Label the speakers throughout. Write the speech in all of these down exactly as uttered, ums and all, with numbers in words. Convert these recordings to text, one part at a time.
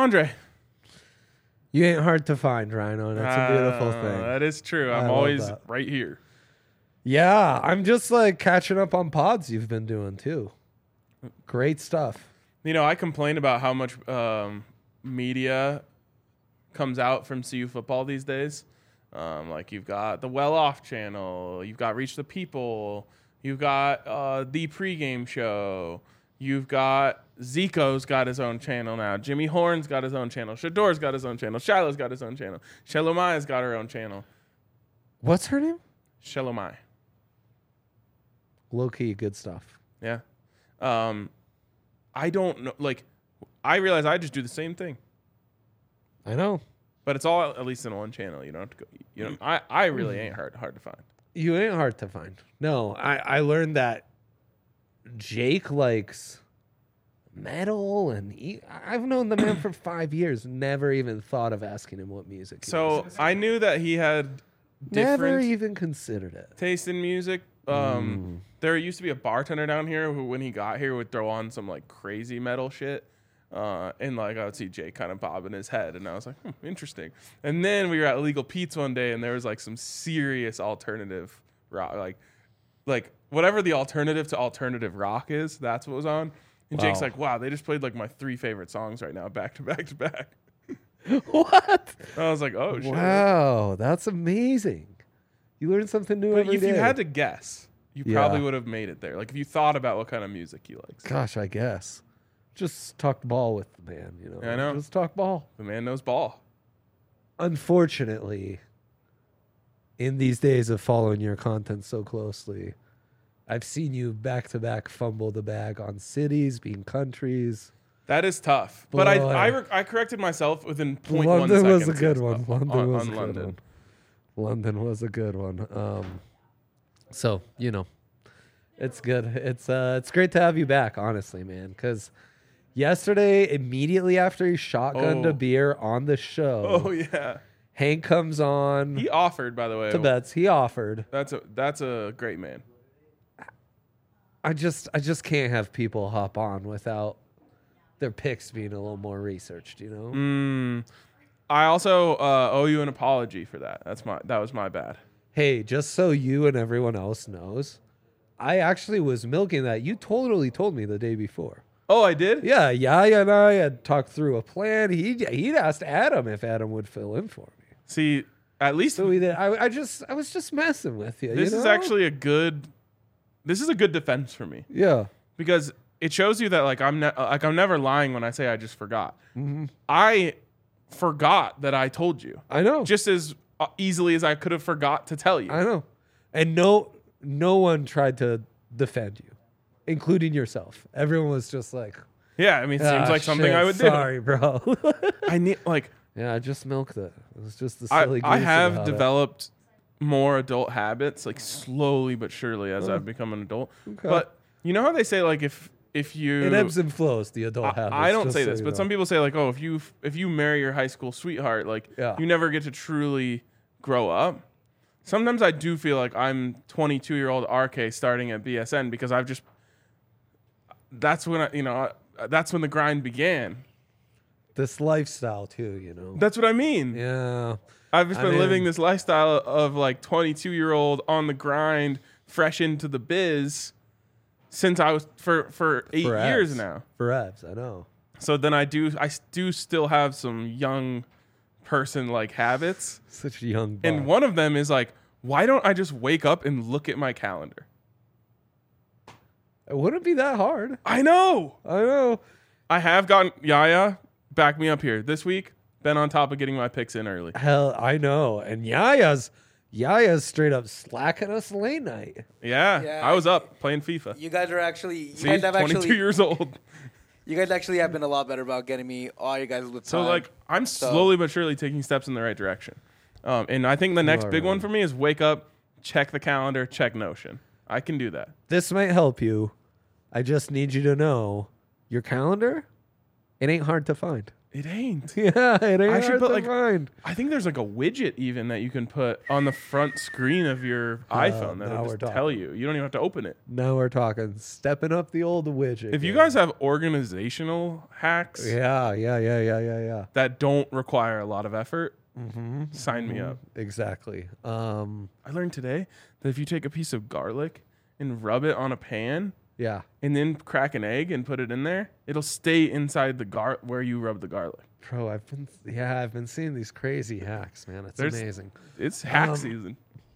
Speaker 1: Andre.
Speaker 2: You ain't hard to find, Rhino. That's a beautiful
Speaker 1: Uh,
Speaker 2: thing.
Speaker 1: That is true.
Speaker 2: I
Speaker 1: I'm
Speaker 2: love
Speaker 1: always
Speaker 2: that.
Speaker 1: right here.
Speaker 2: Yeah, I'm just like catching up on pods you've been doing too. Great stuff.
Speaker 1: You know, I complain about how much um, media comes out from C U football these days. Um, like you've got the Well Off channel, you've got Reach the People, you've got uh, the pregame show, you've got Zico's got his own channel now, Jimmy Horn's got his own channel, Shador's got his own channel, Shiloh's got his own channel, Shelomaya's got her own channel.
Speaker 2: What's her name?
Speaker 1: Shelomai.
Speaker 2: Low key, good stuff.
Speaker 1: Yeah. Um, I don't know. Like, I realize I just do the same thing.
Speaker 2: I know.
Speaker 1: But it's all at least in one channel. You don't have to go. You know, I, I really ain't hard hard to find.
Speaker 2: You ain't hard to find. No, I, I learned that Jake likes metal, and he, I've known the man for five years. Never even thought of asking him what music. He
Speaker 1: So
Speaker 2: was.
Speaker 1: I knew that he had
Speaker 2: Never
Speaker 1: different
Speaker 2: even considered it.
Speaker 1: taste in music. Um, There used to be a bartender down here who, when he got here, would throw on some like crazy metal shit. Uh, and like I would see Jake kind of bobbing his head, and I was like, hmm, interesting. And then we were at Legal Pete's one day, and there was like some serious alternative rock, like like whatever the alternative to alternative rock is. That's what was on. And
Speaker 2: Wow.
Speaker 1: Jake's like, wow, they just played like my three favorite songs right now, back to back to back.
Speaker 2: What?
Speaker 1: I was like, oh shit.
Speaker 2: Wow, that's amazing. You learn something new
Speaker 1: But
Speaker 2: every
Speaker 1: if
Speaker 2: day.
Speaker 1: you had to guess, you
Speaker 2: Yeah.
Speaker 1: probably would have made it there. Like if you thought about what kind of music he likes.
Speaker 2: Gosh, I guess. Just talk ball with the man, you know.
Speaker 1: Yeah, I know.
Speaker 2: Just talk ball.
Speaker 1: The man knows ball.
Speaker 2: Unfortunately, in these days of following your content so closely, I've seen you back to back fumble the bag on cities, being countries.
Speaker 1: That is tough. But I
Speaker 2: Boy.
Speaker 1: I, re- I corrected myself within point one
Speaker 2: London
Speaker 1: seconds.
Speaker 2: was a good
Speaker 1: yes,
Speaker 2: one.
Speaker 1: on-
Speaker 2: London
Speaker 1: on,
Speaker 2: was
Speaker 1: on
Speaker 2: a good
Speaker 1: London.
Speaker 2: one. London was a good one. Um, so you know, it's good. It's uh, it's great to have you back, honestly, man. Because yesterday, immediately after he shotgunned
Speaker 1: Oh.
Speaker 2: a beer on the show,
Speaker 1: Oh yeah.
Speaker 2: Hank comes on
Speaker 1: He offered, by the way.
Speaker 2: to bets. He offered.
Speaker 1: That's a that's a great man.
Speaker 2: I just, I just can't have people hop on without their picks being a little more researched. You know.
Speaker 1: Mm, I also uh, owe you an apology for that. That's my that was my bad.
Speaker 2: Hey, just so you and everyone else knows, I actually was milking that. You totally told me the day before.
Speaker 1: Oh, I did?
Speaker 2: Yeah, Yaya and I had talked through a plan. He he'd asked Adam if Adam would fill in for me.
Speaker 1: See, at least
Speaker 2: So we did. I, I just I was just messing with you.
Speaker 1: this
Speaker 2: you
Speaker 1: is
Speaker 2: know?
Speaker 1: actually a good this is a good defense for me
Speaker 2: yeah.
Speaker 1: because it shows you that like I'm ne- like I'm never lying when I say I just forgot.
Speaker 2: Mm-hmm.
Speaker 1: I forgot that I told you
Speaker 2: I know.
Speaker 1: just as uh, easily as I could have forgot to tell you.
Speaker 2: I know. And no no one tried to defend you, including yourself. Everyone was just like,
Speaker 1: Yeah, I mean, it
Speaker 2: "Ah,
Speaker 1: seems like something
Speaker 2: shit,
Speaker 1: I would
Speaker 2: sorry, bro.
Speaker 1: do. I need like
Speaker 2: Yeah, I just milked it. It was just the
Speaker 1: I,
Speaker 2: silly.
Speaker 1: I
Speaker 2: goose
Speaker 1: have
Speaker 2: about it.
Speaker 1: developed more adult habits, like slowly but surely as I've become an adult.
Speaker 2: Okay.
Speaker 1: But you know how they say like if if you
Speaker 2: It ebbs and flows. The adult
Speaker 1: I,
Speaker 2: habits.
Speaker 1: I don't
Speaker 2: just
Speaker 1: say
Speaker 2: so
Speaker 1: this,
Speaker 2: you
Speaker 1: but
Speaker 2: know.
Speaker 1: some people say like, oh, if you if you marry your high school sweetheart, like
Speaker 2: Yeah.
Speaker 1: you never get to truly grow up. Sometimes I do feel like I'm twenty-two year old R K starting at B S N because I've just that's when I you know that's when the grind began.
Speaker 2: this lifestyle too. You know.
Speaker 1: That's what I mean.
Speaker 2: Yeah.
Speaker 1: I've just
Speaker 2: I
Speaker 1: been
Speaker 2: mean-
Speaker 1: living this lifestyle of like twenty-two year old on the grind, fresh into the biz since I was for for eight
Speaker 2: For
Speaker 1: years
Speaker 2: abs.
Speaker 1: now.
Speaker 2: For abs, I know.
Speaker 1: So then I do I s- do still have some young person like habits,
Speaker 2: Such a young.
Speaker 1: and
Speaker 2: buck.
Speaker 1: one of them is like, why don't I just wake up and look at my calendar?
Speaker 2: It wouldn't be that hard.
Speaker 1: I know.
Speaker 2: I know.
Speaker 1: I have gotten Yaya, back me up here this week. Been on top of getting my picks in early.
Speaker 2: Hell, I know. And Yaya's Yaya's straight up slacking us late night.
Speaker 1: Yeah,
Speaker 3: Yeah,
Speaker 1: I was up playing FIFA.
Speaker 3: You guys are actually you
Speaker 1: See,
Speaker 3: guys have
Speaker 1: twenty-two
Speaker 3: actually
Speaker 1: years old.
Speaker 3: you guys actually have been a lot better about getting me all you guys with
Speaker 1: So
Speaker 3: time.
Speaker 1: like I'm slowly but surely taking steps in the right direction. Um, and I think the next
Speaker 2: are
Speaker 1: big one
Speaker 2: right.
Speaker 1: for me is wake up, check the calendar, check Notion. I can do that.
Speaker 2: This might help you. I just need you to know your calendar. It ain't hard to find.
Speaker 1: It ain't.
Speaker 2: Yeah, it ain't
Speaker 1: I should
Speaker 2: hard
Speaker 1: put,
Speaker 2: to
Speaker 1: like,
Speaker 2: find.
Speaker 1: I think there's like a widget even that you can put on the front screen of your iPhone
Speaker 2: now
Speaker 1: that'll
Speaker 2: we're
Speaker 1: just tell
Speaker 2: talking.
Speaker 1: you. You don't even have to open it.
Speaker 2: Now we're talking stepping up the old widget.
Speaker 1: If you
Speaker 2: game.
Speaker 1: guys have organizational hacks
Speaker 2: Yeah, yeah, yeah, yeah, yeah, yeah.
Speaker 1: that don't require a lot of effort,
Speaker 2: Mm-hmm.
Speaker 1: sign me up.
Speaker 2: Exactly. Um,
Speaker 1: I learned today that if you take a piece of garlic and rub it on a pan
Speaker 2: yeah.
Speaker 1: and then crack an egg and put it in there, it'll stay inside the gar where you rub the garlic.
Speaker 2: Bro, I've been yeah, I've been seeing these crazy hacks, man. It's
Speaker 1: There's-
Speaker 2: amazing.
Speaker 1: It's hack
Speaker 2: Um,
Speaker 1: season.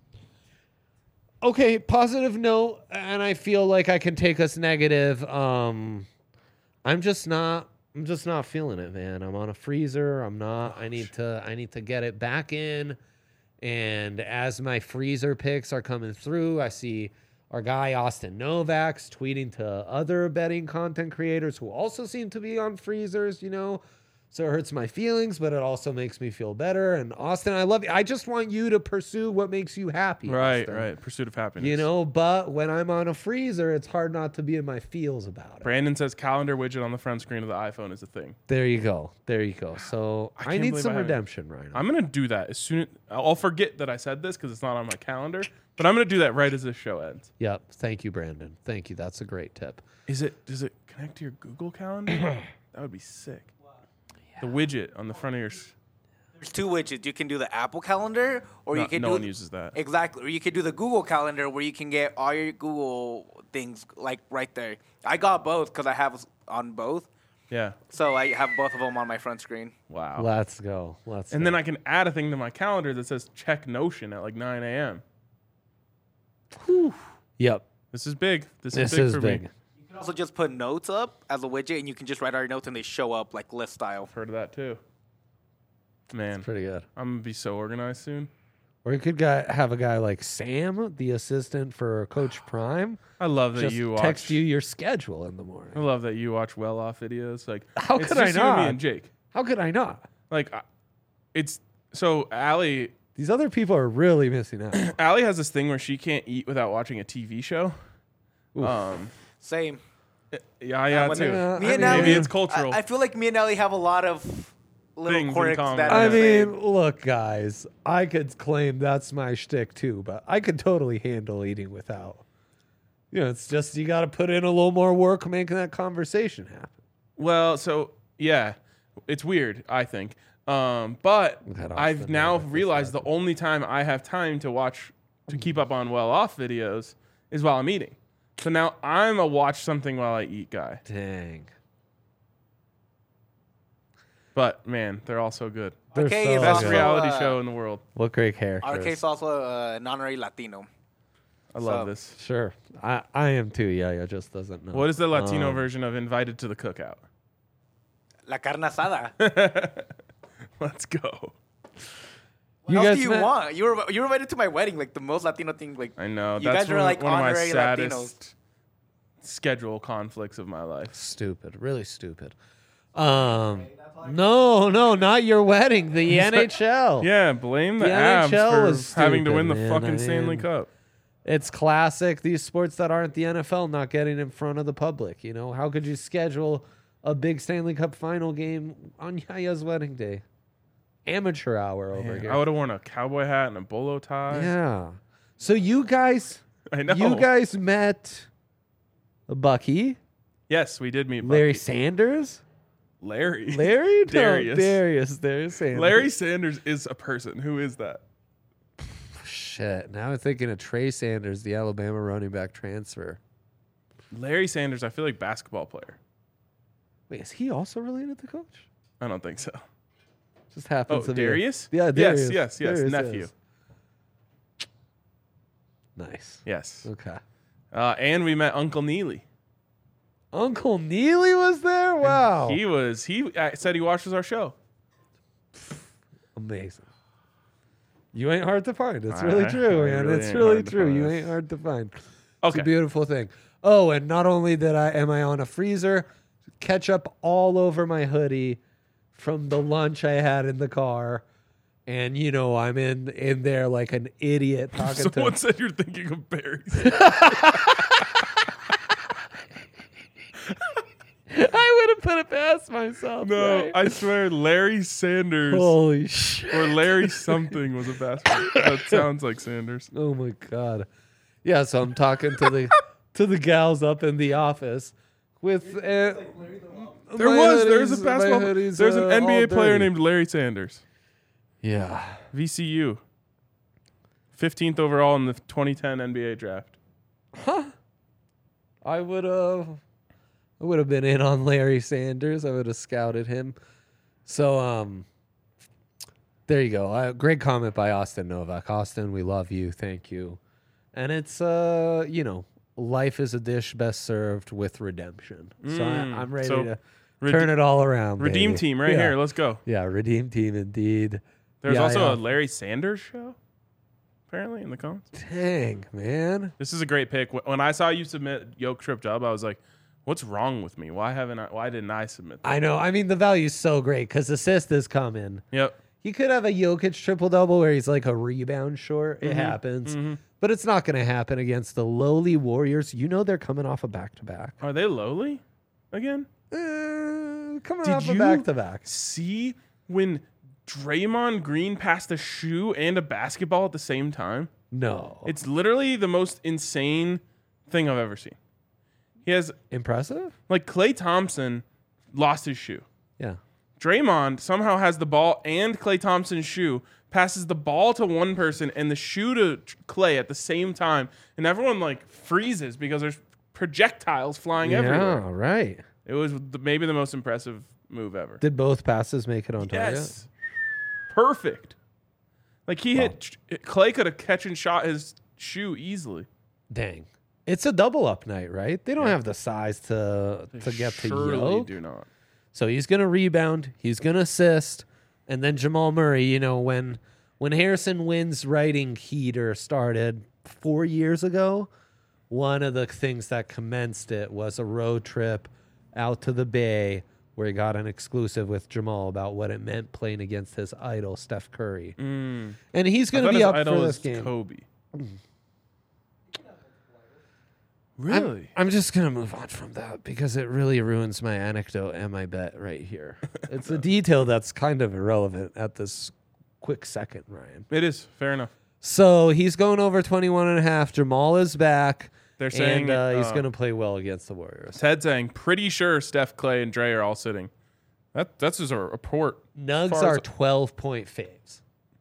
Speaker 2: Okay, positive note, and I feel like I can take us negative. Um, I'm just not. I'm just not feeling it, man. I'm on a freezer. I'm not. I need to. I need to get it back in. And as my freezer picks are coming through, I see our guy Austin Novak's tweeting to other betting content creators who also seem to be on freezers. You know. So it hurts my feelings, but it also makes me feel better. And Austin, I love you. I just want you to pursue what makes you happy.
Speaker 1: Right,
Speaker 2: Austin.
Speaker 1: right. Pursuit of happiness.
Speaker 2: You know, but when I'm on a freezer, it's hard not to be in my feels about it.
Speaker 1: Brandon says calendar widget on the front screen of the iPhone is a thing.
Speaker 2: There you go. There you go. So
Speaker 1: I
Speaker 2: I,
Speaker 1: can't
Speaker 2: need
Speaker 1: believe
Speaker 2: some
Speaker 1: I haven't-
Speaker 2: redemption right now.
Speaker 1: I'm gonna do that as soon as I'll forget that I said this because it's not on my calendar. But I'm gonna do that right as this show ends.
Speaker 2: Yep. Thank you, Brandon. Thank you. That's a great tip.
Speaker 1: Is it? Does it connect to your Google Calendar? That would be sick. The widget on the front of your. s-
Speaker 3: There's two widgets. You can do the Apple Calendar, or
Speaker 1: No,
Speaker 3: you can
Speaker 1: no
Speaker 3: do
Speaker 1: one uses that.
Speaker 3: exactly, or you could do the Google Calendar, where you can get all your Google things like right there. I got both because I have on both,
Speaker 1: Yeah.
Speaker 3: so I have both of them on my front screen.
Speaker 1: Wow.
Speaker 2: Let's go. Let's
Speaker 1: And
Speaker 2: go.
Speaker 1: then I can add a thing to my calendar that says check Notion at like nine a.m.
Speaker 2: Yep.
Speaker 1: This is big. This,
Speaker 2: This
Speaker 1: is big
Speaker 2: is
Speaker 1: for
Speaker 2: big.
Speaker 1: me.
Speaker 3: You can also just put notes up as a widget, and you can just write all your notes, and they show up like list style.
Speaker 1: Heard of that too. Man,
Speaker 2: Pretty good.
Speaker 1: I'm gonna be so organized soon.
Speaker 2: Or you could guy, have a guy like Sam, the assistant for Coach Prime,
Speaker 1: I love that
Speaker 2: just
Speaker 1: you watch.
Speaker 2: text you your schedule in the morning.
Speaker 1: I love that you watch well off videos. Like
Speaker 2: How
Speaker 1: it's
Speaker 2: could I
Speaker 1: just you and me
Speaker 2: not?
Speaker 1: and Jake.
Speaker 2: How could I not?
Speaker 1: Like, I- it's so Allie.
Speaker 2: These other people are really missing out.
Speaker 1: Allie has this thing where she can't eat without watching a T V show.
Speaker 2: Oof.
Speaker 1: Um,
Speaker 3: Same.
Speaker 1: yeah, yeah,
Speaker 3: when
Speaker 1: too.
Speaker 2: Yeah,
Speaker 3: Me
Speaker 2: I
Speaker 3: and
Speaker 2: mean-
Speaker 3: Ellie,
Speaker 1: Maybe it's cultural.
Speaker 3: I, I feel like me and Ellie have a lot of little
Speaker 1: Things in
Speaker 3: quirks
Speaker 1: common.
Speaker 3: that.
Speaker 2: I
Speaker 3: are the same.
Speaker 2: mean, look, guys, I could claim that's my shtick too, but I could totally handle eating without. You know, it's just you got to put in a little more work making that conversation happen.
Speaker 1: Well, so yeah, it's weird. I think, um, but
Speaker 2: Head off
Speaker 1: I've
Speaker 2: the
Speaker 1: now
Speaker 2: note this
Speaker 1: realized the
Speaker 2: second.
Speaker 1: only time I have time to watch to keep up on well off videos is while I'm eating. So now I'm a watch something while I eat guy.
Speaker 2: Dang.
Speaker 1: But man, they're all so good.
Speaker 2: They're
Speaker 3: Okay,
Speaker 2: so
Speaker 3: it's
Speaker 1: Best
Speaker 3: also,
Speaker 2: good.
Speaker 1: reality
Speaker 3: uh,
Speaker 1: show in the world.
Speaker 2: What great characters.
Speaker 3: Our case also uh, an honorary Latino.
Speaker 1: I love
Speaker 3: So-
Speaker 1: this.
Speaker 2: Sure. I, I am too. Yeah, yeah, just doesn't know.
Speaker 1: What is the Latino
Speaker 2: Um,
Speaker 1: version of invited to the cookout?
Speaker 3: La carne asada.
Speaker 1: Let's go.
Speaker 3: What
Speaker 2: You
Speaker 3: else
Speaker 2: guys
Speaker 3: do you
Speaker 2: met-
Speaker 3: want? You were you were invited to my wedding, like the most Latino thing. Like
Speaker 1: I know.
Speaker 3: You
Speaker 1: that's
Speaker 3: guys are
Speaker 1: one,
Speaker 3: like
Speaker 1: one of my
Speaker 3: honorary
Speaker 1: saddest schedule conflicts of my life.
Speaker 2: Stupid. Really stupid. Um, no, no, not your wedding. The N H L.
Speaker 1: Yeah, blame the,
Speaker 2: The
Speaker 1: Avs
Speaker 2: N H L
Speaker 1: for
Speaker 2: was
Speaker 1: having to
Speaker 2: stupid,
Speaker 1: win the
Speaker 2: man.
Speaker 1: fucking
Speaker 2: I
Speaker 1: Stanley
Speaker 2: mean-
Speaker 1: Cup.
Speaker 2: It's classic. These sports that aren't the N F L not getting in front of the public. You know, how could you schedule a big Stanley Cup final game on Yaya's wedding day? Amateur hour over
Speaker 1: Man,
Speaker 2: here.
Speaker 1: I would have worn a cowboy hat and a bolo tie.
Speaker 2: Yeah. So you guys,
Speaker 1: I know.
Speaker 2: you guys met Bucky,
Speaker 1: Yes, we did meet
Speaker 2: Larry
Speaker 1: Bucky.
Speaker 2: Sanders,
Speaker 1: Larry.
Speaker 2: Larry, No,
Speaker 1: Darius.
Speaker 2: Darius, Darius Sanders.
Speaker 1: Larry Sanders is a person. Who is that?
Speaker 2: Shit. Now I'm thinking of Trey Sanders, the Alabama running back transfer.
Speaker 1: Larry Sanders, I feel like basketball player.
Speaker 2: Wait, is he also related to Coach?
Speaker 1: I don't think so.
Speaker 2: Just happens
Speaker 1: Oh,
Speaker 2: to be a-
Speaker 1: Darius?
Speaker 2: Yeah, Darius.
Speaker 1: Yes, yes, yes.
Speaker 2: Darius
Speaker 1: Nephew.
Speaker 2: is. Nice.
Speaker 1: Yes.
Speaker 2: Okay.
Speaker 1: Uh, and we met Uncle Neely.
Speaker 2: Uncle Neely was there? Wow.
Speaker 1: He was, he uh, said he watches our show.
Speaker 2: Amazing. You ain't hard to find. It's
Speaker 1: I-
Speaker 2: really
Speaker 1: I
Speaker 2: true, man.
Speaker 1: really
Speaker 2: it's
Speaker 1: ain't
Speaker 2: really
Speaker 1: hard to
Speaker 2: true.
Speaker 1: find.
Speaker 2: You ain't hard to find. It's
Speaker 1: Okay.
Speaker 2: a beautiful thing. Oh, and not only did I am I on a freezer, ketchup all over my hoodie from the lunch I had in the car. And you know, I'm in in there like an idiot talking
Speaker 1: Someone
Speaker 2: to
Speaker 1: said you're thinking of berries.
Speaker 2: I would have put it past myself.
Speaker 1: No,
Speaker 2: right?
Speaker 1: I swear Larry Sanders
Speaker 2: Holy shit.
Speaker 1: or Larry something was a basketball. That sounds like Sanders.
Speaker 2: Oh my god. Yeah, so I'm talking to the to the gals up in the office with uh,
Speaker 1: There
Speaker 2: my
Speaker 1: was there's a
Speaker 2: hoodies- my
Speaker 1: basketball.
Speaker 2: hoodies,
Speaker 1: There's an
Speaker 2: uh,
Speaker 1: N B A
Speaker 2: all
Speaker 1: player
Speaker 2: dirty.
Speaker 1: named Larry Sanders.
Speaker 2: Yeah.
Speaker 1: V C U. fifteenth overall in the twenty ten N B A draft.
Speaker 2: I would have I would have been in on Larry Sanders. I would have scouted him. So um there you go. Uh, great comment by Austin Novak. Austin, we love you. Thank you. And it's uh, you know, life is a dish best served with redemption. so I,
Speaker 1: Mm,
Speaker 2: I'm ready
Speaker 1: so
Speaker 2: to
Speaker 1: Rede-
Speaker 2: turn it all around.
Speaker 1: Redeem
Speaker 2: baby.
Speaker 1: team right
Speaker 2: Yeah.
Speaker 1: here. Let's go.
Speaker 2: Yeah, redeem team indeed.
Speaker 1: There's
Speaker 2: Yeah,
Speaker 1: also
Speaker 2: yeah.
Speaker 1: a Larry Sanders show, apparently, in the comments.
Speaker 2: Dang, man.
Speaker 1: This is a great pick. Wh- When I saw you submit Yoke Trip Dub, I was like, what's wrong with me? Why haven't I, why didn't I submit that?
Speaker 2: I know. I mean, the value's so great because assist is coming.
Speaker 1: Yep.
Speaker 2: He could have a Jokic triple double where he's like a rebound short. It happens. But it's not going to happen against the lowly Warriors. You know they're coming off a back to back.
Speaker 1: Are they lowly again?
Speaker 2: Uh, coming
Speaker 1: Did
Speaker 2: off a
Speaker 1: you-
Speaker 2: back to back.
Speaker 1: See when Draymond Green passed a shoe and a basketball at the same time?
Speaker 2: No.
Speaker 1: It's literally the most insane thing I've ever seen. He has,
Speaker 2: Impressive?
Speaker 1: like, Klay Thompson lost his shoe.
Speaker 2: Yeah.
Speaker 1: Draymond somehow has the ball and Klay Thompson's shoe, passes the ball to one person and the shoe to Klay at the same time, and everyone like freezes because there's projectiles flying everywhere.
Speaker 2: Yeah, right.
Speaker 1: It was the, maybe the most impressive move ever.
Speaker 2: Did both passes make it on target?
Speaker 1: Yes, perfect. Like he hit Klay could have catch and shot his shoe easily.
Speaker 2: Dang. It's a double up night, right? They don't have the size to to get to
Speaker 1: Surely
Speaker 2: Yoke.
Speaker 1: do not.
Speaker 2: So he's going to rebound, he's going to assist, and then Jamal Murray, you know, when when Harrison Wynn's writing heater started four years ago, one of the things that commenced it was a road trip out to the Bay where he got an exclusive with Jamal about what it meant playing against his idol, Steph Curry.
Speaker 1: Mm.
Speaker 2: And he's
Speaker 1: I
Speaker 2: going
Speaker 1: thought
Speaker 2: to be
Speaker 1: his
Speaker 2: up
Speaker 1: idol
Speaker 2: for
Speaker 1: was
Speaker 2: this game.
Speaker 1: Kobe.
Speaker 2: I'm,
Speaker 1: Really?
Speaker 2: I'm just going to move on from that because it really ruins my anecdote and my bet right here. It's a detail that's kind of irrelevant at this quick second, Ryan.
Speaker 1: It is fair enough.
Speaker 2: So he's going over twenty-one and a half. Jamal is back.
Speaker 1: They're saying
Speaker 2: and uh, he's
Speaker 1: uh,
Speaker 2: going to play well against the Warriors.
Speaker 1: Ted saying pretty sure Steph, Clay, and Dre are all sitting. That that's just a report.
Speaker 2: Nugs
Speaker 1: far
Speaker 2: are
Speaker 1: as-
Speaker 2: twelve-point faves.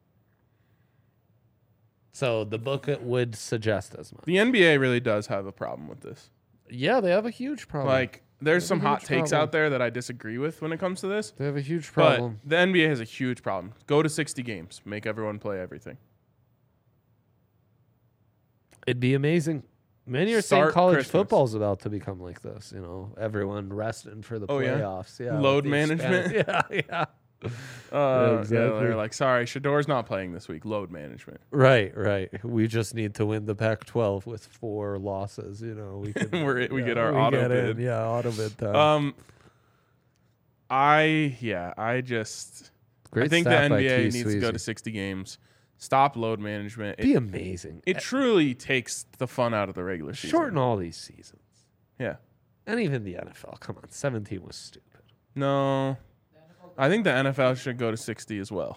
Speaker 2: So the book would suggest as much.
Speaker 1: The N B A really does have a problem with this.
Speaker 2: Yeah, they have a huge problem.
Speaker 1: Like, there's
Speaker 2: They
Speaker 1: some
Speaker 2: have a
Speaker 1: hot
Speaker 2: huge
Speaker 1: takes
Speaker 2: problem.
Speaker 1: out there that I disagree with when it comes to this.
Speaker 2: they have a huge problem.
Speaker 1: But the N B A has a huge problem. Go to sixty games. Make everyone play everything.
Speaker 2: It'd be amazing. Many are
Speaker 1: Start
Speaker 2: saying college
Speaker 1: Christmas.
Speaker 2: football's about to become like this. You know, everyone resting for the
Speaker 1: Oh, yeah?
Speaker 2: playoffs. Yeah,
Speaker 1: Load
Speaker 2: with the
Speaker 1: management?
Speaker 2: expan- Yeah, yeah.
Speaker 1: Uh,
Speaker 2: Yeah,
Speaker 1: yeah,
Speaker 2: exactly.
Speaker 1: they're like, sorry, Shador's not playing this week. Load management.
Speaker 2: Right, right. We just need to win the Pac twelve with four losses. You know, we can.
Speaker 1: We're, we
Speaker 2: yeah,
Speaker 1: get our
Speaker 2: we
Speaker 1: auto
Speaker 2: get in.
Speaker 1: bid.
Speaker 2: Yeah, auto bid time.
Speaker 1: Um, I yeah, I just
Speaker 2: Great
Speaker 1: I think the
Speaker 2: stat
Speaker 1: N
Speaker 2: by
Speaker 1: B A
Speaker 2: T.
Speaker 1: needs to go
Speaker 2: Sweezy.
Speaker 1: to sixty games. Stop load management.
Speaker 2: Be
Speaker 1: It,
Speaker 2: amazing.
Speaker 1: it truly takes the fun out of the regular season.
Speaker 2: Shorten all these seasons,
Speaker 1: Yeah.
Speaker 2: and even the N F L. Come on, seventeen was stupid.
Speaker 1: No. I think the N F L should go to sixty as well.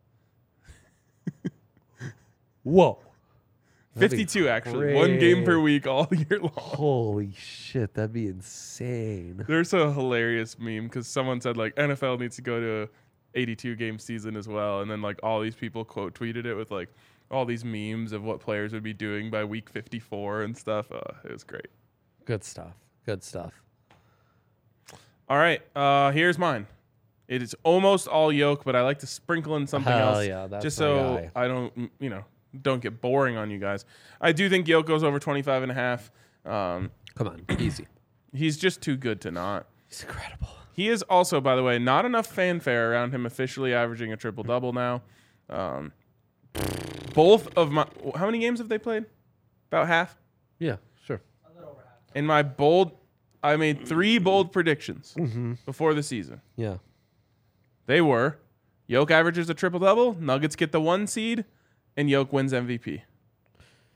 Speaker 2: Whoa, That'd be
Speaker 1: fifty-two actually. One game per
Speaker 2: great.
Speaker 1: week all year long.
Speaker 2: Holy shit, that'd be insane.
Speaker 1: There's a hilarious meme because someone said like N F L needs to go to a eighty-two game season as well, and then like all these people quote tweeted it with like all these memes of what players would be doing by week fifty-four and stuff. Uh, it was great.
Speaker 2: Good stuff. Good stuff.
Speaker 1: All right, uh, here's mine. It is almost all Yoke, but I like to sprinkle in something
Speaker 2: Hell
Speaker 1: else
Speaker 2: yeah, that's
Speaker 1: just
Speaker 2: my
Speaker 1: so
Speaker 2: guy.
Speaker 1: I don't, mm, you know, don't get boring on you guys. I do think Yoke goes over twenty-five and a half. Um,
Speaker 2: Come on, easy.
Speaker 1: he's just too good to not.
Speaker 2: He's incredible.
Speaker 1: He is also, by the way, not enough fanfare around him officially averaging a triple double now. Um, both of my, how many games have they played? About half.
Speaker 2: Yeah, sure.
Speaker 1: In my bold, I made three bold predictions
Speaker 2: Mm-hmm.
Speaker 1: before the season.
Speaker 2: Yeah.
Speaker 1: They were Yoke averages a triple double, Nuggets get the one seed, and Yoke wins M V P.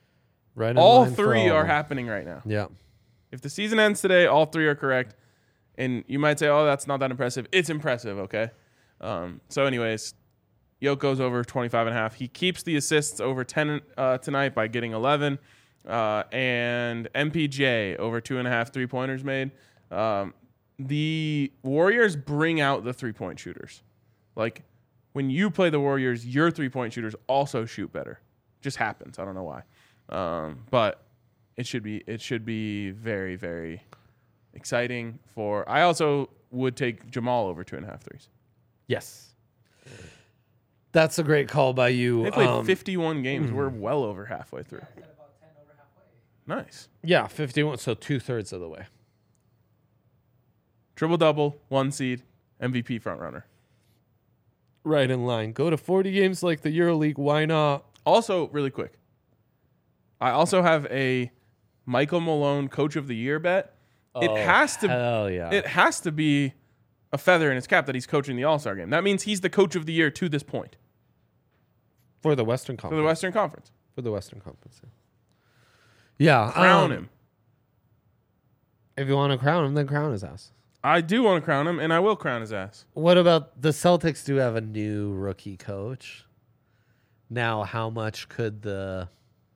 Speaker 2: Right. in
Speaker 1: All
Speaker 2: line for
Speaker 1: three
Speaker 2: all of
Speaker 1: are
Speaker 2: them.
Speaker 1: happening right now.
Speaker 2: Yeah.
Speaker 1: If the season ends today, all three are correct. And you might say, oh, that's not that impressive. It's impressive, okay? Um, so anyways, Yoke goes over twenty-five and a half. He keeps the assists over ten uh, tonight by getting eleven. Uh, and M P J over two and a half three-pointers made. Um, the Warriors bring out the three-point shooters. Like, when you play the Warriors, your three-point shooters also shoot better. Just happens. I don't know why. Um, but it should be it should be very, very exciting for... I also would take Jamal over two and a half threes.
Speaker 2: Yes. That's a great call by you.
Speaker 1: They played
Speaker 2: Um,
Speaker 1: fifty-one games. We're well over halfway through. Nice.
Speaker 2: Yeah, fifty-one, so two-thirds of the way.
Speaker 1: Triple-double, one seed, M V P frontrunner.
Speaker 2: Right in line. Go to forty games like the EuroLeague. Why not?
Speaker 1: Also, really quick, I also have a Michael Malone Coach of the Year bet. It
Speaker 2: Oh,
Speaker 1: has to.
Speaker 2: Hell yeah.
Speaker 1: It has to be a feather in his cap that he's coaching the All-Star game. That means he's the Coach of the Year to this point
Speaker 2: For the Western
Speaker 1: for
Speaker 2: Conference.
Speaker 1: the Western Conference.
Speaker 2: For the Western Conference. Yeah.
Speaker 1: Crown
Speaker 2: um,
Speaker 1: him.
Speaker 2: If you want to crown him, then crown his ass.
Speaker 1: I do want to crown him, and I will crown his ass.
Speaker 2: What about the Celtics do have a new rookie coach? Now, how much could the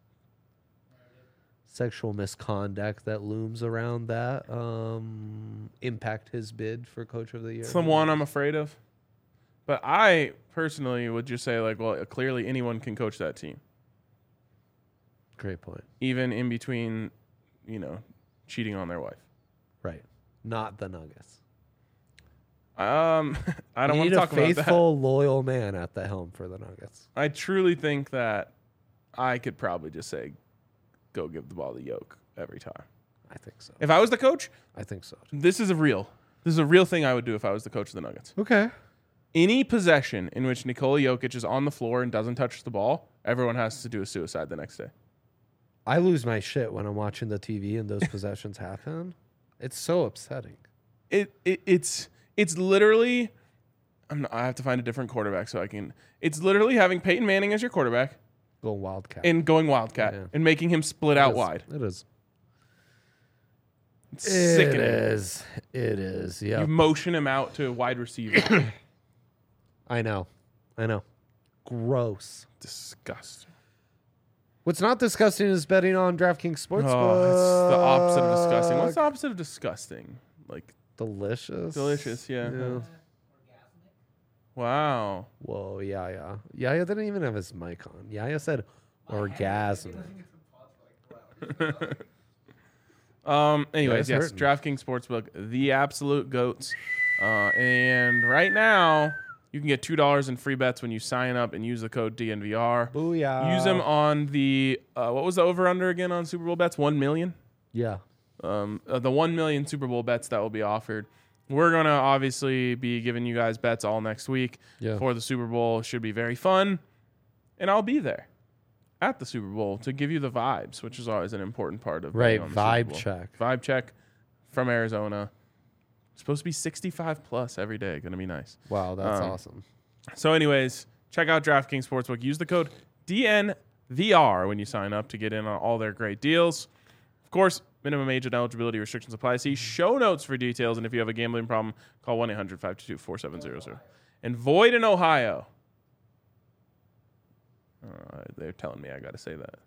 Speaker 2: sexual misconduct that looms around that um, impact his bid for Coach of the Year?
Speaker 1: It's the one I'm afraid of. But I personally would just say, like, well, clearly anyone can coach that team,
Speaker 2: Great point.
Speaker 1: even in between, you know, cheating on their wife.
Speaker 2: Right. Not the Nuggets.
Speaker 1: Um, I don't
Speaker 2: You
Speaker 1: want
Speaker 2: need
Speaker 1: to
Speaker 2: a
Speaker 1: talk about that.
Speaker 2: faithful, loyal man at the helm for the Nuggets.
Speaker 1: I truly think that I could probably just say, go give the ball to Yoke every time.
Speaker 2: I think so.
Speaker 1: If I was the coach,
Speaker 2: I think so.
Speaker 1: this is a real, this is a real thing I would do if I was the coach of the Nuggets.
Speaker 2: Okay.
Speaker 1: Any possession in which Nikola Jokic is on the floor and doesn't touch the ball, everyone has to do a suicide the next day.
Speaker 2: I lose my shit when I'm watching the T V and those possessions happen. It's so upsetting.
Speaker 1: It, it it's it's literally. I'm not, I have to find a different quarterback so I can. It's literally having Peyton Manning as your quarterback
Speaker 2: Going Wildcat.
Speaker 1: and going Wildcat
Speaker 2: Yeah.
Speaker 1: and making him split
Speaker 2: It
Speaker 1: out
Speaker 2: is.
Speaker 1: wide.
Speaker 2: It is.
Speaker 1: It's
Speaker 2: It
Speaker 1: sickening.
Speaker 2: is. It is. Yeah.
Speaker 1: You motion him out to wide receiver.
Speaker 2: I know. I know. Gross.
Speaker 1: Disgusting.
Speaker 2: What's not disgusting is betting on DraftKings Sportsbook.
Speaker 1: Oh, it's the opposite of disgusting. What's the opposite of disgusting? Like
Speaker 2: Delicious.
Speaker 1: delicious, yeah.
Speaker 2: Yeah.
Speaker 1: Wow.
Speaker 2: Whoa, Yaya. Yaya didn't even have his mic on. Yaya said orgasm.
Speaker 1: Um. Anyways,
Speaker 2: Yeah,
Speaker 1: yes,
Speaker 2: it's
Speaker 1: DraftKings Sportsbook, the absolute goats. Uh, and right now, you can get two dollars in free bets when you sign up and use the code D N V R.
Speaker 2: Booyah.
Speaker 1: Use them on the uh, what was the over under again on Super Bowl bets? One million.
Speaker 2: Yeah.
Speaker 1: Um, uh, the one million Super Bowl bets that will be offered. We're gonna obviously be giving you guys bets all next week
Speaker 2: Yeah.
Speaker 1: for the Super Bowl. Should be very fun, and I'll be there at the Super Bowl to give you the vibes, which is always an important part of
Speaker 2: Right.
Speaker 1: being on the Super
Speaker 2: Vibe
Speaker 1: Bowl.
Speaker 2: check.
Speaker 1: Vibe check from Arizona. It's supposed to be sixty-five plus every day. Gonna be nice.
Speaker 2: Wow, that's
Speaker 1: Um,
Speaker 2: awesome.
Speaker 1: So, anyways, check out DraftKings Sportsbook. Use the code D N V R when you sign up to get in on all their great deals. Of course, minimum age and eligibility restrictions apply. See show notes for details. And if you have a gambling problem, call one eight hundred five two two four seven zero zero. And void in Ohio. Uh, they're telling me I got to say that.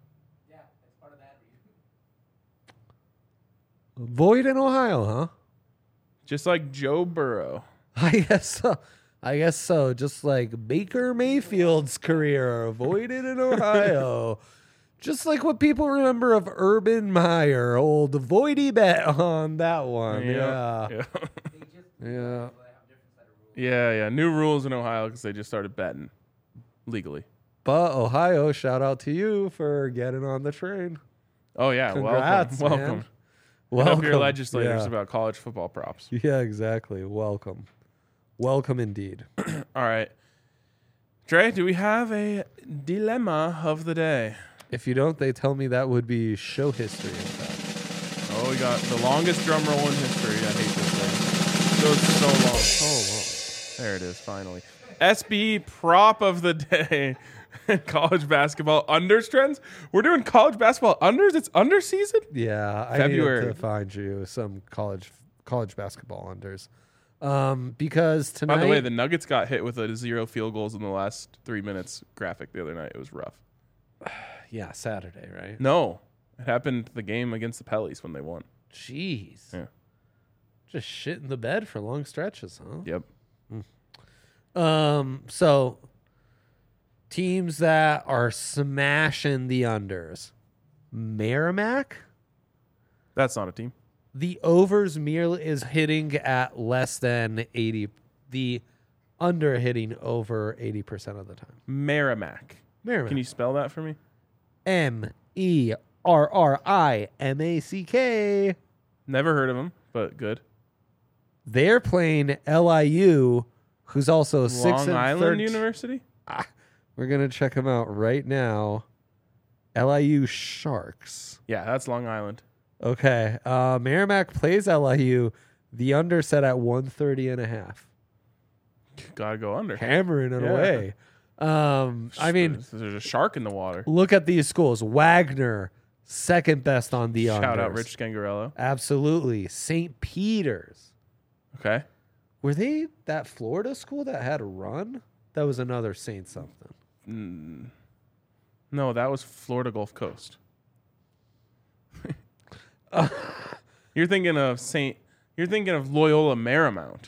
Speaker 2: Void in Ohio, huh?
Speaker 1: Just like Joe Burrow.
Speaker 2: I guess so. I guess so. Just like Baker Mayfield's career, avoided in Ohio. Just like what people remember of Urban Meyer, old voidy bet on that one. Yeah.
Speaker 1: Yeah.
Speaker 2: Yeah.
Speaker 1: Yeah, yeah. New rules in Ohio because they just started betting legally.
Speaker 2: But Ohio, shout out to you for getting on the train.
Speaker 1: Oh, yeah.
Speaker 2: Congrats,
Speaker 1: welcome.
Speaker 2: man.
Speaker 1: Welcome.
Speaker 2: Welcome.
Speaker 1: Help your legislators
Speaker 2: Yeah.
Speaker 1: about college football props.
Speaker 2: Yeah, exactly. Welcome. Welcome indeed.
Speaker 1: All right. Dre, do we have a dilemma of the day?
Speaker 2: If you don't, they tell me that would be show history, in fact.
Speaker 1: Oh, we got the longest drum roll in history. I hate this thing. It goes so long.
Speaker 2: So long.
Speaker 1: There it is, finally. S B prop of the day. College basketball unders trends. We're doing college basketball unders. It's under season.
Speaker 2: Yeah, I
Speaker 1: February.
Speaker 2: needed to find you some college college basketball unders. Um, because tonight,
Speaker 1: By the way, the Nuggets got hit with a zero field goals in the last three minutes graphic the other night. It was rough.
Speaker 2: yeah, Saturday, right?
Speaker 1: No, it happened the game against the Pellies when they won.
Speaker 2: Jeez.
Speaker 1: Yeah.
Speaker 2: Just shit in the bed for long stretches, huh?
Speaker 1: Yep.
Speaker 2: Um, so teams that are smashing the unders. Merrimack,
Speaker 1: That's not a team.
Speaker 2: the overs merely is hitting at less than eighty. The under hitting over eighty percent of the time.
Speaker 1: Merrimack.
Speaker 2: Merrimack.
Speaker 1: Can you spell that for me?
Speaker 2: M E R R I M A C K.
Speaker 1: Never heard of them, but good.
Speaker 2: They're playing L I U, who's also six
Speaker 1: Long
Speaker 2: and
Speaker 1: Island
Speaker 2: thirteen.
Speaker 1: University?
Speaker 2: We're gonna check them out right now. L I U Sharks.
Speaker 1: Yeah, that's Long Island.
Speaker 2: Okay. Uh, Merrimack plays L I U. The under set at one thirty and a half.
Speaker 1: Gotta go under.
Speaker 2: Hammering it
Speaker 1: Yeah.
Speaker 2: away. Um, I mean,
Speaker 1: there's a shark in the water.
Speaker 2: look at these schools. Wagner, second best on the
Speaker 1: Shout
Speaker 2: unders.
Speaker 1: out Rich Scangarello.
Speaker 2: Absolutely. Saint Peter's.
Speaker 1: Okay.
Speaker 2: Were they that Florida school that had a run? That was another Saint something.
Speaker 1: Mm. No, that was Florida Gulf Coast. You're thinking of Saint. You're thinking of Loyola Marymount.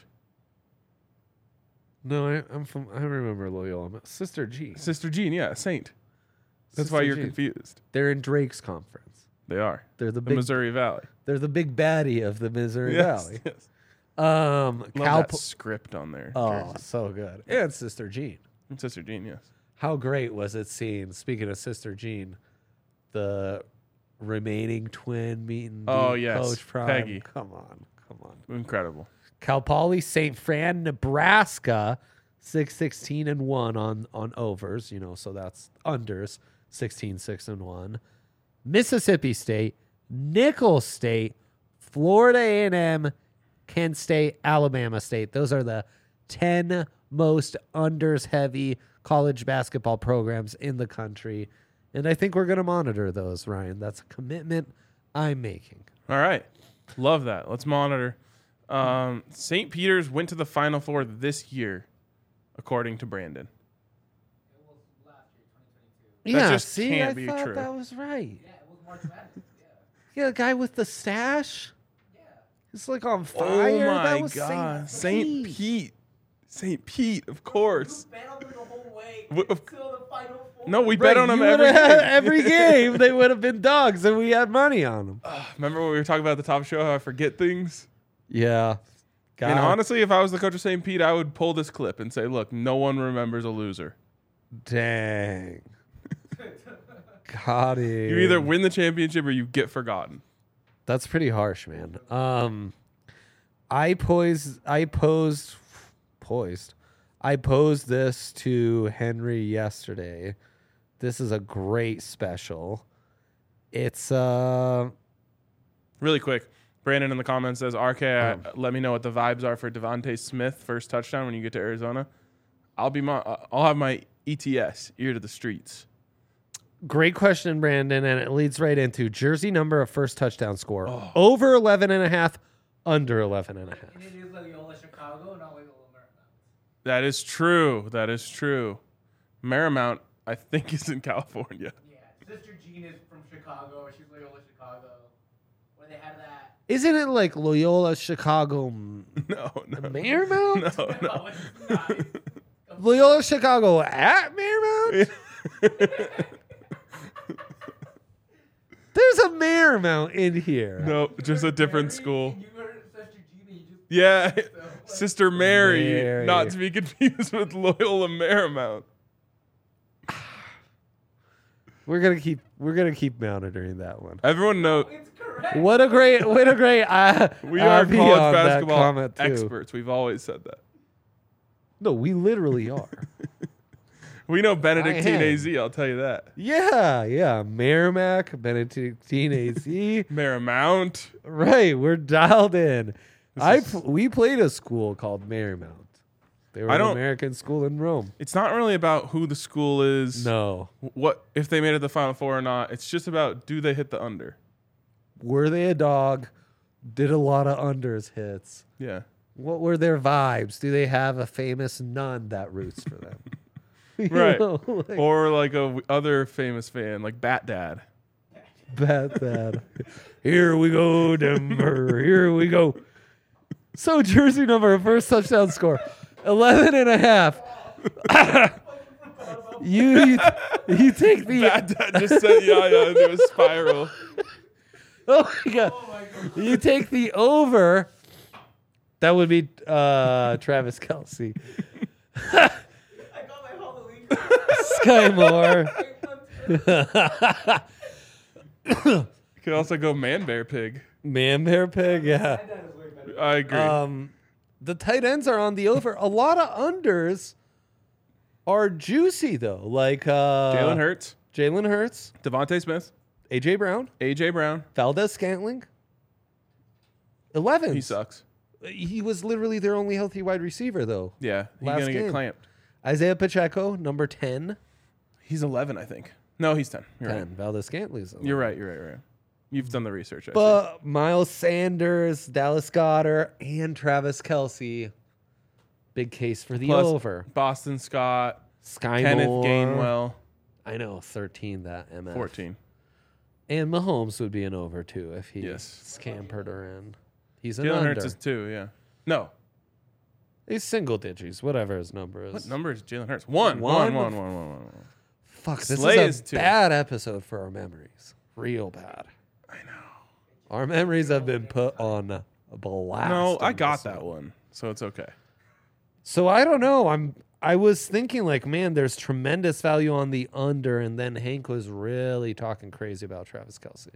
Speaker 2: No, I, I'm from. I remember Loyola. Sister G.
Speaker 1: Sister Jean, yeah, Saint. That's
Speaker 2: Sister
Speaker 1: why you're
Speaker 2: Jean.
Speaker 1: confused.
Speaker 2: They're in Drake's conference.
Speaker 1: They are.
Speaker 2: They're the
Speaker 1: The
Speaker 2: big.
Speaker 1: Missouri Valley.
Speaker 2: They're the big baddie of the Missouri
Speaker 1: Yes,
Speaker 2: Valley.
Speaker 1: yes.
Speaker 2: Um,
Speaker 1: Love
Speaker 2: Cal.
Speaker 1: that script on there.
Speaker 2: Oh, so good. And Sister Jean.
Speaker 1: Sister Jean, yes.
Speaker 2: How great was it seeing? Speaking of Sister Jean, the remaining twin meeting.
Speaker 1: Oh,
Speaker 2: beat
Speaker 1: yes.
Speaker 2: Coach Prime.
Speaker 1: Peggy.
Speaker 2: Come on, come on.
Speaker 1: Incredible.
Speaker 2: Cal Poly, Saint Fran, Nebraska, six sixteen and one on on overs. You know, so that's unders. sixteen six and one. Mississippi State, Nicholls State, Florida A and M, Kent State, Alabama State. Those are the ten most unders heavy college basketball programs in the country. And I think we're going to monitor those, Ryan. That's a commitment I'm making.
Speaker 1: All right. Love that. Let's monitor. Um, Saint Peter's went to the Final Four this year, according to Brandon. That
Speaker 2: yeah,
Speaker 1: just
Speaker 2: see,
Speaker 1: can't
Speaker 2: I
Speaker 1: be
Speaker 2: thought
Speaker 1: true.
Speaker 2: that was right.
Speaker 4: Yeah, it was March Madness. Yeah.
Speaker 2: Yeah, the guy with the stash.
Speaker 4: Yeah.
Speaker 2: He's like on fire.
Speaker 1: Oh my
Speaker 2: that was
Speaker 1: God.
Speaker 2: Saint
Speaker 1: Saint
Speaker 2: Pete.
Speaker 1: Pete. Saint Pete, of course.
Speaker 4: You bet on them the whole way
Speaker 1: W- of-
Speaker 4: until the Final Four.
Speaker 1: No, we
Speaker 2: Right,
Speaker 1: bet on them
Speaker 2: you
Speaker 1: every
Speaker 2: would've had
Speaker 1: game.
Speaker 2: every game. They would have been dogs, and we had money on them.
Speaker 1: Remember when we were talking about at the top show how I forget things?
Speaker 2: Yeah. God.
Speaker 1: And honestly, if I was the coach of Saint Pete, I would pull this clip and say, look, no one remembers a loser.
Speaker 2: Dang. Got it.
Speaker 1: You either win the championship or you get forgotten.
Speaker 2: That's pretty harsh, man. Um, I posed, I posed, poised, I posed this to Henry yesterday. This is a great special. It's uh,
Speaker 1: Really quick, Brandon in the comments says, R K,
Speaker 2: Oh.
Speaker 1: uh, let me know what the vibes are for Devontae Smith first touchdown when you get to Arizona. I'll be my, uh, I'll have my E T S, ear to the streets.
Speaker 2: great question, Brandon, and it leads right into jersey number of first touchdown score. Over eleven and a half, under eleven and a half.
Speaker 4: And it is Loyola Chicago, not Loyola Marymount.
Speaker 1: That is true. That is true. Marymount, I think, is in California.
Speaker 4: Yeah, Sister Jean is from Chicago. She's Loyola Chicago. Where they had that.
Speaker 2: Isn't it like Loyola Chicago M-
Speaker 1: No, no.
Speaker 2: Marymount?
Speaker 1: No, no.
Speaker 4: No, it's not.
Speaker 2: Loyola Chicago at Marymount? There's a Marymount in here.
Speaker 1: No, just a different
Speaker 4: Mary,
Speaker 1: school.
Speaker 4: You heard Sister Jean, and you just
Speaker 1: Yeah,
Speaker 4: So, like-
Speaker 1: Sister Mary,
Speaker 2: Mary.
Speaker 1: not to be confused with Loyola Marymount.
Speaker 2: We're gonna keep we're gonna keep monitoring that one.
Speaker 1: Everyone knows
Speaker 4: It's correct.
Speaker 2: What a great what a great uh,
Speaker 1: we are
Speaker 2: R P
Speaker 1: college
Speaker 2: on that
Speaker 1: basketball
Speaker 2: comment, too.
Speaker 1: experts. We've always said that.
Speaker 2: No, we literally are.
Speaker 1: We know Benedictine
Speaker 2: am.
Speaker 1: A Z, I'll tell you that.
Speaker 2: Yeah, yeah. Merrimack, Benedictine A Z.
Speaker 1: Marymount.
Speaker 2: Right, we're dialed in. I
Speaker 1: is-
Speaker 2: pl- we played a school called Marymount. They were
Speaker 1: I
Speaker 2: an
Speaker 1: don't-
Speaker 2: American school in Rome.
Speaker 1: It's not really about who the school is,
Speaker 2: No.
Speaker 1: what if they made it to the Final Four or not. It's just about do they hit the under.
Speaker 2: Were they a dog? Did a lot of unders hits.
Speaker 1: Yeah.
Speaker 2: What were their vibes? Do they have a famous nun that roots for them? You
Speaker 1: Right.
Speaker 2: know, like,
Speaker 1: Or like a w- other famous fan, like Bat Dad.
Speaker 2: Bat Dad. Here we go, Denver. Here we go. So jersey number, first touchdown score, eleven and a half. you, you you take the
Speaker 1: Bat Dad just sent Yaya into a spiral.
Speaker 2: oh my god. You take the over. That would be uh, Travis Kelce.
Speaker 4: I got my Halloween.
Speaker 2: Sky Moore.
Speaker 1: You could also go Man Bear Pig.
Speaker 2: Man Bear Pig, yeah.
Speaker 1: I agree.
Speaker 2: Um, the tight ends are on the over. A lot of unders are juicy though. Like uh,
Speaker 1: Jalen Hurts,
Speaker 2: Jalen Hurts,
Speaker 1: Devontae Smith,
Speaker 2: A J Brown,
Speaker 1: A J Brown.
Speaker 2: Valdez Scantling. Eleven.
Speaker 1: He sucks.
Speaker 2: He was literally their only healthy wide receiver though.
Speaker 1: Yeah, he's
Speaker 2: Last
Speaker 1: gonna
Speaker 2: game.
Speaker 1: get clamped.
Speaker 2: Isaiah Pacheco, number ten.
Speaker 1: He's eleven, I think. No, he's ten. You're
Speaker 2: ten.
Speaker 1: right.
Speaker 2: Valdez Scantling's eleven.
Speaker 1: You're right. You're right. You're right. You've done the research. I see.
Speaker 2: But Miles Sanders, Dallas Goddard, and Travis Kelce. Big case for the
Speaker 1: Plus
Speaker 2: over.
Speaker 1: Boston Scott,
Speaker 2: Sky
Speaker 1: Kenneth
Speaker 2: Moore.
Speaker 1: Gainwell,
Speaker 2: I know, thirteen that M F.
Speaker 1: fourteen.
Speaker 2: And Mahomes would be an over too if he
Speaker 1: Yes.
Speaker 2: scampered her in. He's an
Speaker 1: Jalen
Speaker 2: under.
Speaker 1: Hurts is two. Yeah. No.
Speaker 2: He's single digits, whatever his number is.
Speaker 1: What number is Jalen Hurts? One.
Speaker 2: One?
Speaker 1: One. One. One. One. One. One.
Speaker 2: Fuck, this
Speaker 1: Slay
Speaker 2: is
Speaker 1: is
Speaker 2: a
Speaker 1: two.
Speaker 2: bad episode for our memories. Real bad.
Speaker 1: I know.
Speaker 2: Our memories have been put on a blast.
Speaker 1: No, I
Speaker 2: in
Speaker 1: got
Speaker 2: this
Speaker 1: that
Speaker 2: one.
Speaker 1: one, so it's okay.
Speaker 2: So I don't know. I'm. I was thinking like, man, there's tremendous value on the under, and then Hank was really talking crazy about Travis Kelce.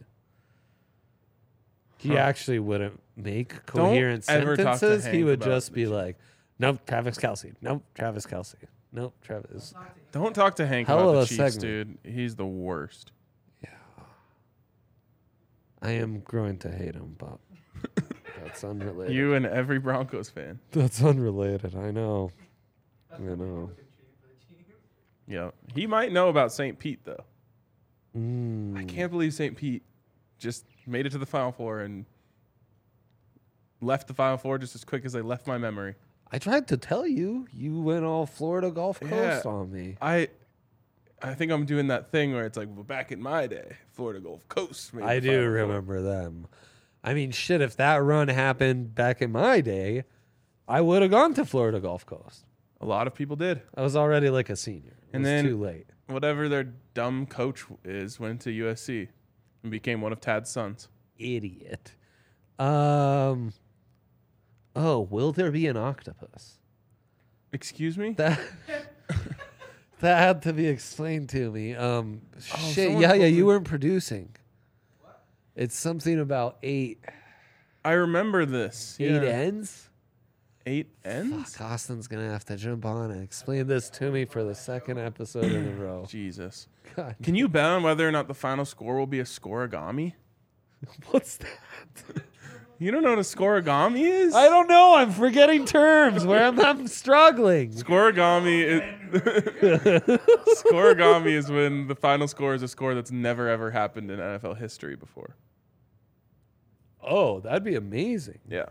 Speaker 2: He
Speaker 1: Huh.
Speaker 2: actually wouldn't make coherent
Speaker 1: ever talk to
Speaker 2: sentences. He
Speaker 1: Hank
Speaker 2: would
Speaker 1: about
Speaker 2: just be like, "Nope, Travis Kelce. Nope, Travis Kelce. Nope, Travis."
Speaker 1: Don't talk to Hank
Speaker 2: Hell
Speaker 1: about
Speaker 2: of
Speaker 1: the
Speaker 2: a
Speaker 1: Chiefs,
Speaker 2: segment.
Speaker 1: dude. He's the worst.
Speaker 2: I am growing to hate him, but that's unrelated.
Speaker 1: You and every Broncos fan.
Speaker 2: That's unrelated. I know. I know.
Speaker 1: Yeah, he might know about Saint Pete though.
Speaker 2: Mm.
Speaker 1: I can't believe Saint Pete just made it to the Final Four and left the Final Four just as quick as they left my memory.
Speaker 2: I tried to tell you. You went all Florida Gulf Coast
Speaker 1: Yeah.
Speaker 2: on me.
Speaker 1: I, I think I'm doing that thing where it's like, well, back in my day, Florida Gulf Coast. Made
Speaker 2: I
Speaker 1: the
Speaker 2: do
Speaker 1: Final Four.
Speaker 2: remember them. I mean, shit, if that run happened back in my day, I would have gone to Florida Gulf Coast.
Speaker 1: A lot of people did.
Speaker 2: I was already like a senior. It
Speaker 1: And
Speaker 2: was
Speaker 1: then-
Speaker 2: too late.
Speaker 1: Whatever their dumb coach is, went to U S C and became one of Tad's sons.
Speaker 2: Idiot. Um. Oh, will there be an octopus?
Speaker 1: Excuse me?
Speaker 2: That that had to be explained to me. Um, shit,
Speaker 1: someone
Speaker 2: yeah, yeah,
Speaker 1: told
Speaker 2: you
Speaker 1: me-
Speaker 2: weren't producing. It's something about eight
Speaker 1: I remember this.
Speaker 2: eight
Speaker 1: Yeah.
Speaker 2: ends.
Speaker 1: Eight ends?
Speaker 2: Fuck, Austin's gonna have to jump on and explain this to me for the second episode in a row.
Speaker 1: Jesus.
Speaker 2: God,
Speaker 1: Can you bet on whether or not the final score will be a scoregami?
Speaker 2: what's that?
Speaker 1: You don't know what a scoregami is?
Speaker 2: I don't know. I'm forgetting terms. Where I'm, I'm struggling.
Speaker 1: Scoregami is Scoregami is when the final score is a score that's never ever happened in N F L history before.
Speaker 2: Oh, that'd be amazing.
Speaker 1: Yeah.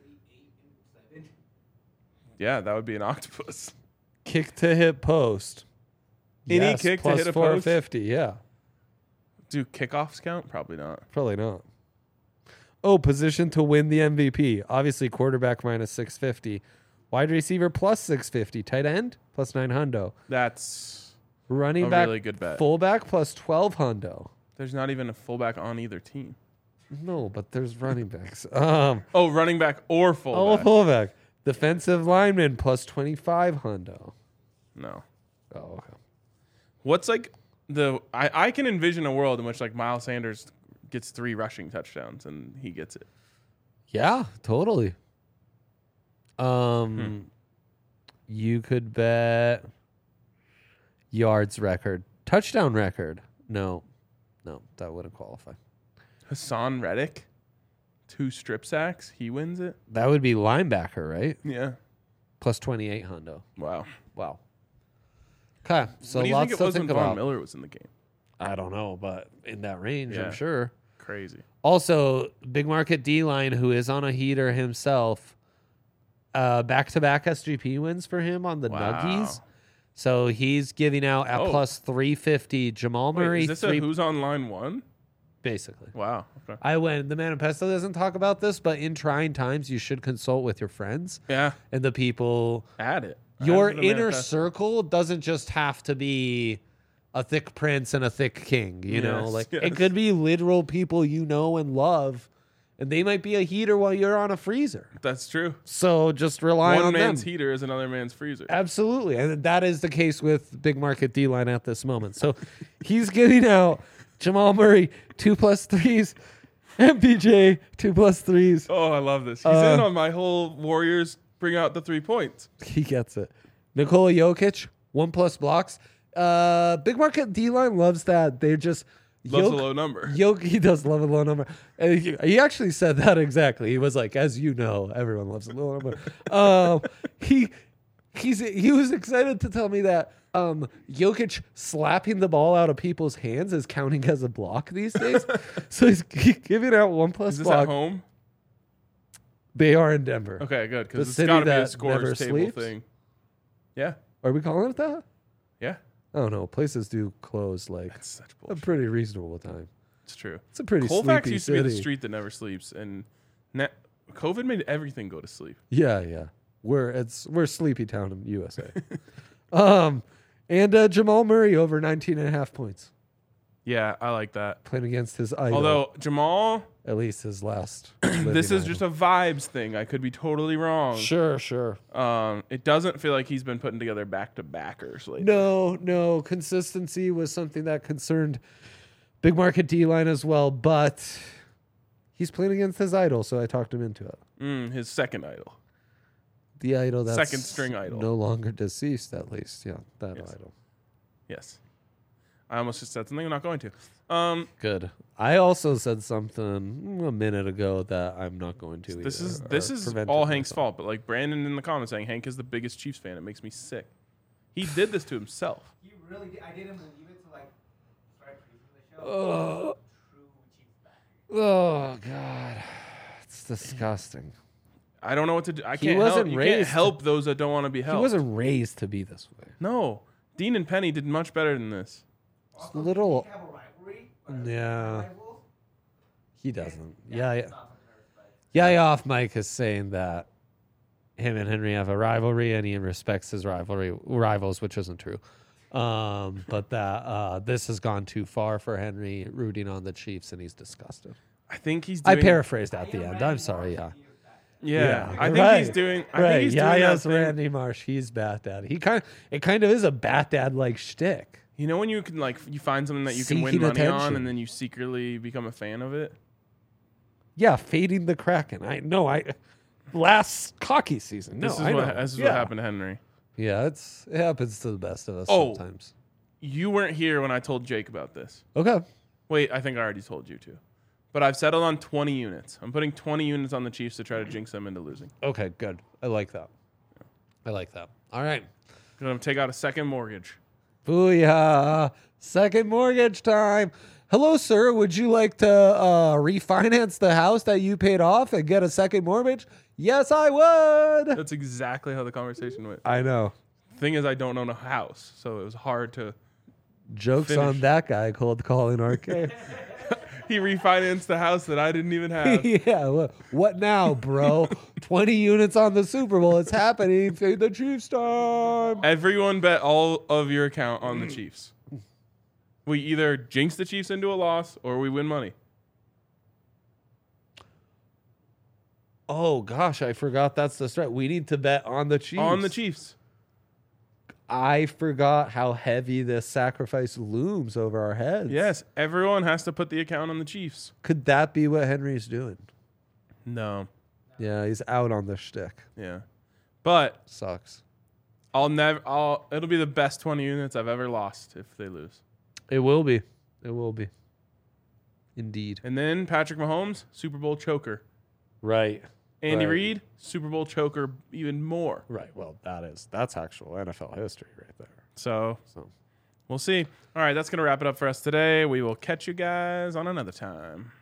Speaker 1: Yeah, that would be an octopus.
Speaker 2: Kick to hit post.
Speaker 1: Any
Speaker 2: Yes,
Speaker 1: kick to
Speaker 2: plus
Speaker 1: hit a
Speaker 2: four
Speaker 1: post?
Speaker 2: fifty. Yeah,
Speaker 1: Do kickoffs count? Probably not.
Speaker 2: probably not. Oh, position to win the M V P. Obviously, quarterback minus six fifty. Wide receiver plus six fifty. Tight end plus nine hundo.
Speaker 1: That's
Speaker 2: Running
Speaker 1: a
Speaker 2: back
Speaker 1: really good bet.
Speaker 2: fullback plus twelve hundo.
Speaker 1: There's not even a fullback on either team.
Speaker 2: No, but there's running backs. Um,
Speaker 1: Oh, running back or
Speaker 2: oh,
Speaker 1: fullback.
Speaker 2: fullback. Defensive lineman plus twenty-five hundo.
Speaker 1: No.
Speaker 2: Oh, okay.
Speaker 1: What's like the I, I can envision a world in which like Miles Sanders gets three rushing touchdowns and he gets it.
Speaker 2: Yeah, totally.
Speaker 1: Hmm.
Speaker 2: Um, you could bet yards record, touchdown record. No, no, that wouldn't qualify.
Speaker 1: Hassan Reddick, two strip sacks, he wins it.
Speaker 2: That would be linebacker, right?
Speaker 1: Yeah.
Speaker 2: Plus twenty-eight hundo.
Speaker 1: Wow.
Speaker 2: Wow. Okay, so
Speaker 1: what do you
Speaker 2: lots
Speaker 1: think it
Speaker 2: to
Speaker 1: was
Speaker 2: think
Speaker 1: when Von
Speaker 2: about.
Speaker 1: Miller was in the game?
Speaker 2: I don't know, but in that range,
Speaker 1: Yeah.
Speaker 2: I'm sure.
Speaker 1: crazy.
Speaker 2: Also, big market D-line, who is on a heater himself, uh, back-to-back S G P wins for him on the
Speaker 1: Wow.
Speaker 2: Nuggies. So he's giving out at
Speaker 1: Oh.
Speaker 2: plus three fifty. Jamal
Speaker 1: Wait,
Speaker 2: Murray,
Speaker 1: is this
Speaker 2: three,
Speaker 1: a who's on line one?
Speaker 2: basically.
Speaker 1: Wow. Okay.
Speaker 2: I went, the Manifesto doesn't talk about this, but in trying times, you should consult with your friends
Speaker 1: Yeah.
Speaker 2: and the people.
Speaker 1: Add it. Add
Speaker 2: Your
Speaker 1: it to the
Speaker 2: inner
Speaker 1: manifesto.
Speaker 2: circle doesn't just have to be a thick prince and a thick king, you know?
Speaker 1: Yes,
Speaker 2: Like
Speaker 1: yes.
Speaker 2: it could be literal people you know and love, and they might be a heater while you're on a freezer.
Speaker 1: That's true.
Speaker 2: So just rely
Speaker 1: One
Speaker 2: on
Speaker 1: man's
Speaker 2: them.
Speaker 1: heater is another man's freezer.
Speaker 2: Absolutely. And that is the case with big market D line at this moment. So he's giving out Jamal Murray two plus threes, M P J two plus threes.
Speaker 1: Oh, I love this. He's
Speaker 2: Uh,
Speaker 1: in on my whole Warriors bring out the three points.
Speaker 2: He gets it. Nikola Jokic, one plus blocks. Uh, big market D line loves that. They're just
Speaker 1: Loves
Speaker 2: Jok-
Speaker 1: a low number.
Speaker 2: Jokic, he does love a low number. And he, he actually said that exactly. He was like, as you know, everyone loves a low number. um, he he's he was excited to tell me that um, Jokic slapping the ball out of people's hands is counting as a block these days. So he's g- giving out one plus
Speaker 1: Is this
Speaker 2: block.
Speaker 1: at home?
Speaker 2: They are in Denver.
Speaker 1: Okay, good.
Speaker 2: The
Speaker 1: Because it's
Speaker 2: city
Speaker 1: got to be a
Speaker 2: that never
Speaker 1: scores table
Speaker 2: sleeps?
Speaker 1: thing. Yeah.
Speaker 2: Are we calling it that?
Speaker 1: Yeah.
Speaker 2: I don't know. Places do close like
Speaker 1: That's such
Speaker 2: a
Speaker 1: bullshit.
Speaker 2: pretty reasonable time.
Speaker 1: It's true.
Speaker 2: It's a pretty
Speaker 1: Colfax
Speaker 2: sleepy
Speaker 1: used to be the
Speaker 2: city.
Speaker 1: street that never sleeps, and na- COVID made everything go to sleep.
Speaker 2: Yeah, yeah. We're it's we're sleepy town in U S A. um, and uh, Jamal Murray over nineteen and a half points
Speaker 1: Yeah, I like that.
Speaker 2: playing against his idol.
Speaker 1: Although Jamal,
Speaker 2: at least his last.
Speaker 1: this is just a vibes thing. I could be totally wrong.
Speaker 2: sure, sure.
Speaker 1: Um, it doesn't feel like he's been putting together back to backers lately.
Speaker 2: No, no. Consistency was something that concerned big market D line as well, but he's playing against his idol, so I talked him into it.
Speaker 1: Mm, his second idol.
Speaker 2: The idol that's
Speaker 1: Second string idol.
Speaker 2: no longer deceased, at least. Yeah, that
Speaker 1: Yes.
Speaker 2: idol.
Speaker 1: Yes. I almost just said something I'm not going to. Um,
Speaker 2: Good. I also said something a minute ago that I'm not going to.
Speaker 1: this
Speaker 2: either,
Speaker 1: is
Speaker 2: or
Speaker 1: this is
Speaker 2: prevented
Speaker 1: all Hank's
Speaker 2: myself.
Speaker 1: fault, but like Brandon in the comments saying Hank is the biggest Chiefs fan. It makes me sick. He did this to himself.
Speaker 4: You really did. I didn't believe it till like start previewing the show.
Speaker 2: Oh.
Speaker 4: True Chiefs backer.
Speaker 2: Oh God, it's disgusting.
Speaker 1: I don't know what to do. I
Speaker 2: He
Speaker 1: can't
Speaker 2: wasn't
Speaker 1: help. You can't
Speaker 2: raised-
Speaker 1: help those that don't want to be
Speaker 2: He
Speaker 1: helped.
Speaker 2: wasn't raised to be this way.
Speaker 1: No, Dean and Penny did much better than this.
Speaker 4: Also,
Speaker 2: little-
Speaker 4: do they have a rivalry? Or
Speaker 2: Yeah.
Speaker 4: rivals?
Speaker 2: He doesn't.
Speaker 4: Yeah,
Speaker 2: Yeah,
Speaker 4: it's
Speaker 2: yeah.
Speaker 4: not something I respect.
Speaker 2: Yeah, yeah. Off Mike is saying that him and Henry have a rivalry, and he respects his rivalry rivals, which isn't true. Um, but that uh, this has gone too far for Henry rooting on the Chiefs, and he's disgusted.
Speaker 1: I think he's.
Speaker 2: I
Speaker 1: Doing,
Speaker 2: paraphrased at the end. I'm sorry. Yeah.
Speaker 1: Yeah,
Speaker 2: Yeah,
Speaker 1: I think
Speaker 2: right,
Speaker 1: he's doing. I
Speaker 2: right.
Speaker 1: think he's
Speaker 2: yeah,
Speaker 1: doing that
Speaker 2: yes,
Speaker 1: thing.
Speaker 2: Randy Marsh. He's Bat Dad. He kind. It kind of is a Bat Dad like shtick.
Speaker 1: You know when you can like you find something that you can win
Speaker 2: Seeking
Speaker 1: money on,
Speaker 2: attention.
Speaker 1: and then you secretly become a fan of it.
Speaker 2: Yeah, fading the Kraken. I no. I last hockey season. No,
Speaker 1: This is
Speaker 2: I
Speaker 1: what
Speaker 2: know.
Speaker 1: this is
Speaker 2: yeah.
Speaker 1: what happened to Henry.
Speaker 2: Yeah, it's it happens to the best of us
Speaker 1: Oh.
Speaker 2: sometimes.
Speaker 1: You weren't here when I told Jake about this.
Speaker 2: Okay.
Speaker 1: Wait, I think I already told you too. But I've settled on twenty units. I'm putting twenty units on the Chiefs to try to jinx them into losing.
Speaker 2: Okay, good. I like that. I like that. All right.
Speaker 1: I'm gonna take out a second mortgage.
Speaker 2: Booyah. Second mortgage time. Hello, sir. Would you like to uh, refinance the house that you paid off and get a second mortgage? Yes, I would.
Speaker 1: That's exactly how the conversation went.
Speaker 2: I know.
Speaker 1: Thing is, I don't own a house, so it was hard to.
Speaker 2: Jokes
Speaker 1: Finish.
Speaker 2: on that guy cold calling R K.
Speaker 1: He refinanced the house that I didn't even have.
Speaker 2: yeah. What, what now, bro? twenty units on the Super Bowl. It's happening. Fade the Chiefs time.
Speaker 1: Everyone bet all of your account on the Chiefs. We either jinx the Chiefs into a loss or we win money.
Speaker 2: Oh, gosh. I forgot that's the strat. We need to bet on the Chiefs.
Speaker 1: On the Chiefs.
Speaker 2: I forgot how heavy this sacrifice looms over our heads.
Speaker 1: Yes, everyone has to put the account on the Chiefs.
Speaker 2: Could that be what Henry's doing?
Speaker 1: No.
Speaker 2: Yeah, he's out on the shtick.
Speaker 1: Yeah. But
Speaker 2: Sucks.
Speaker 1: I'll never I'll it'll be the best twenty units I've ever lost if they lose.
Speaker 2: It will be. It will be. Indeed.
Speaker 1: And then Patrick Mahomes, Super Bowl choker.
Speaker 2: Right.
Speaker 1: Andy
Speaker 2: Right.
Speaker 1: Reid, Super Bowl choker even more.
Speaker 2: Right. Well, that is that's actual N F L history right there.
Speaker 1: So
Speaker 2: So
Speaker 1: we'll see. All right, that's gonna wrap it up for us today. We will catch you guys on another time.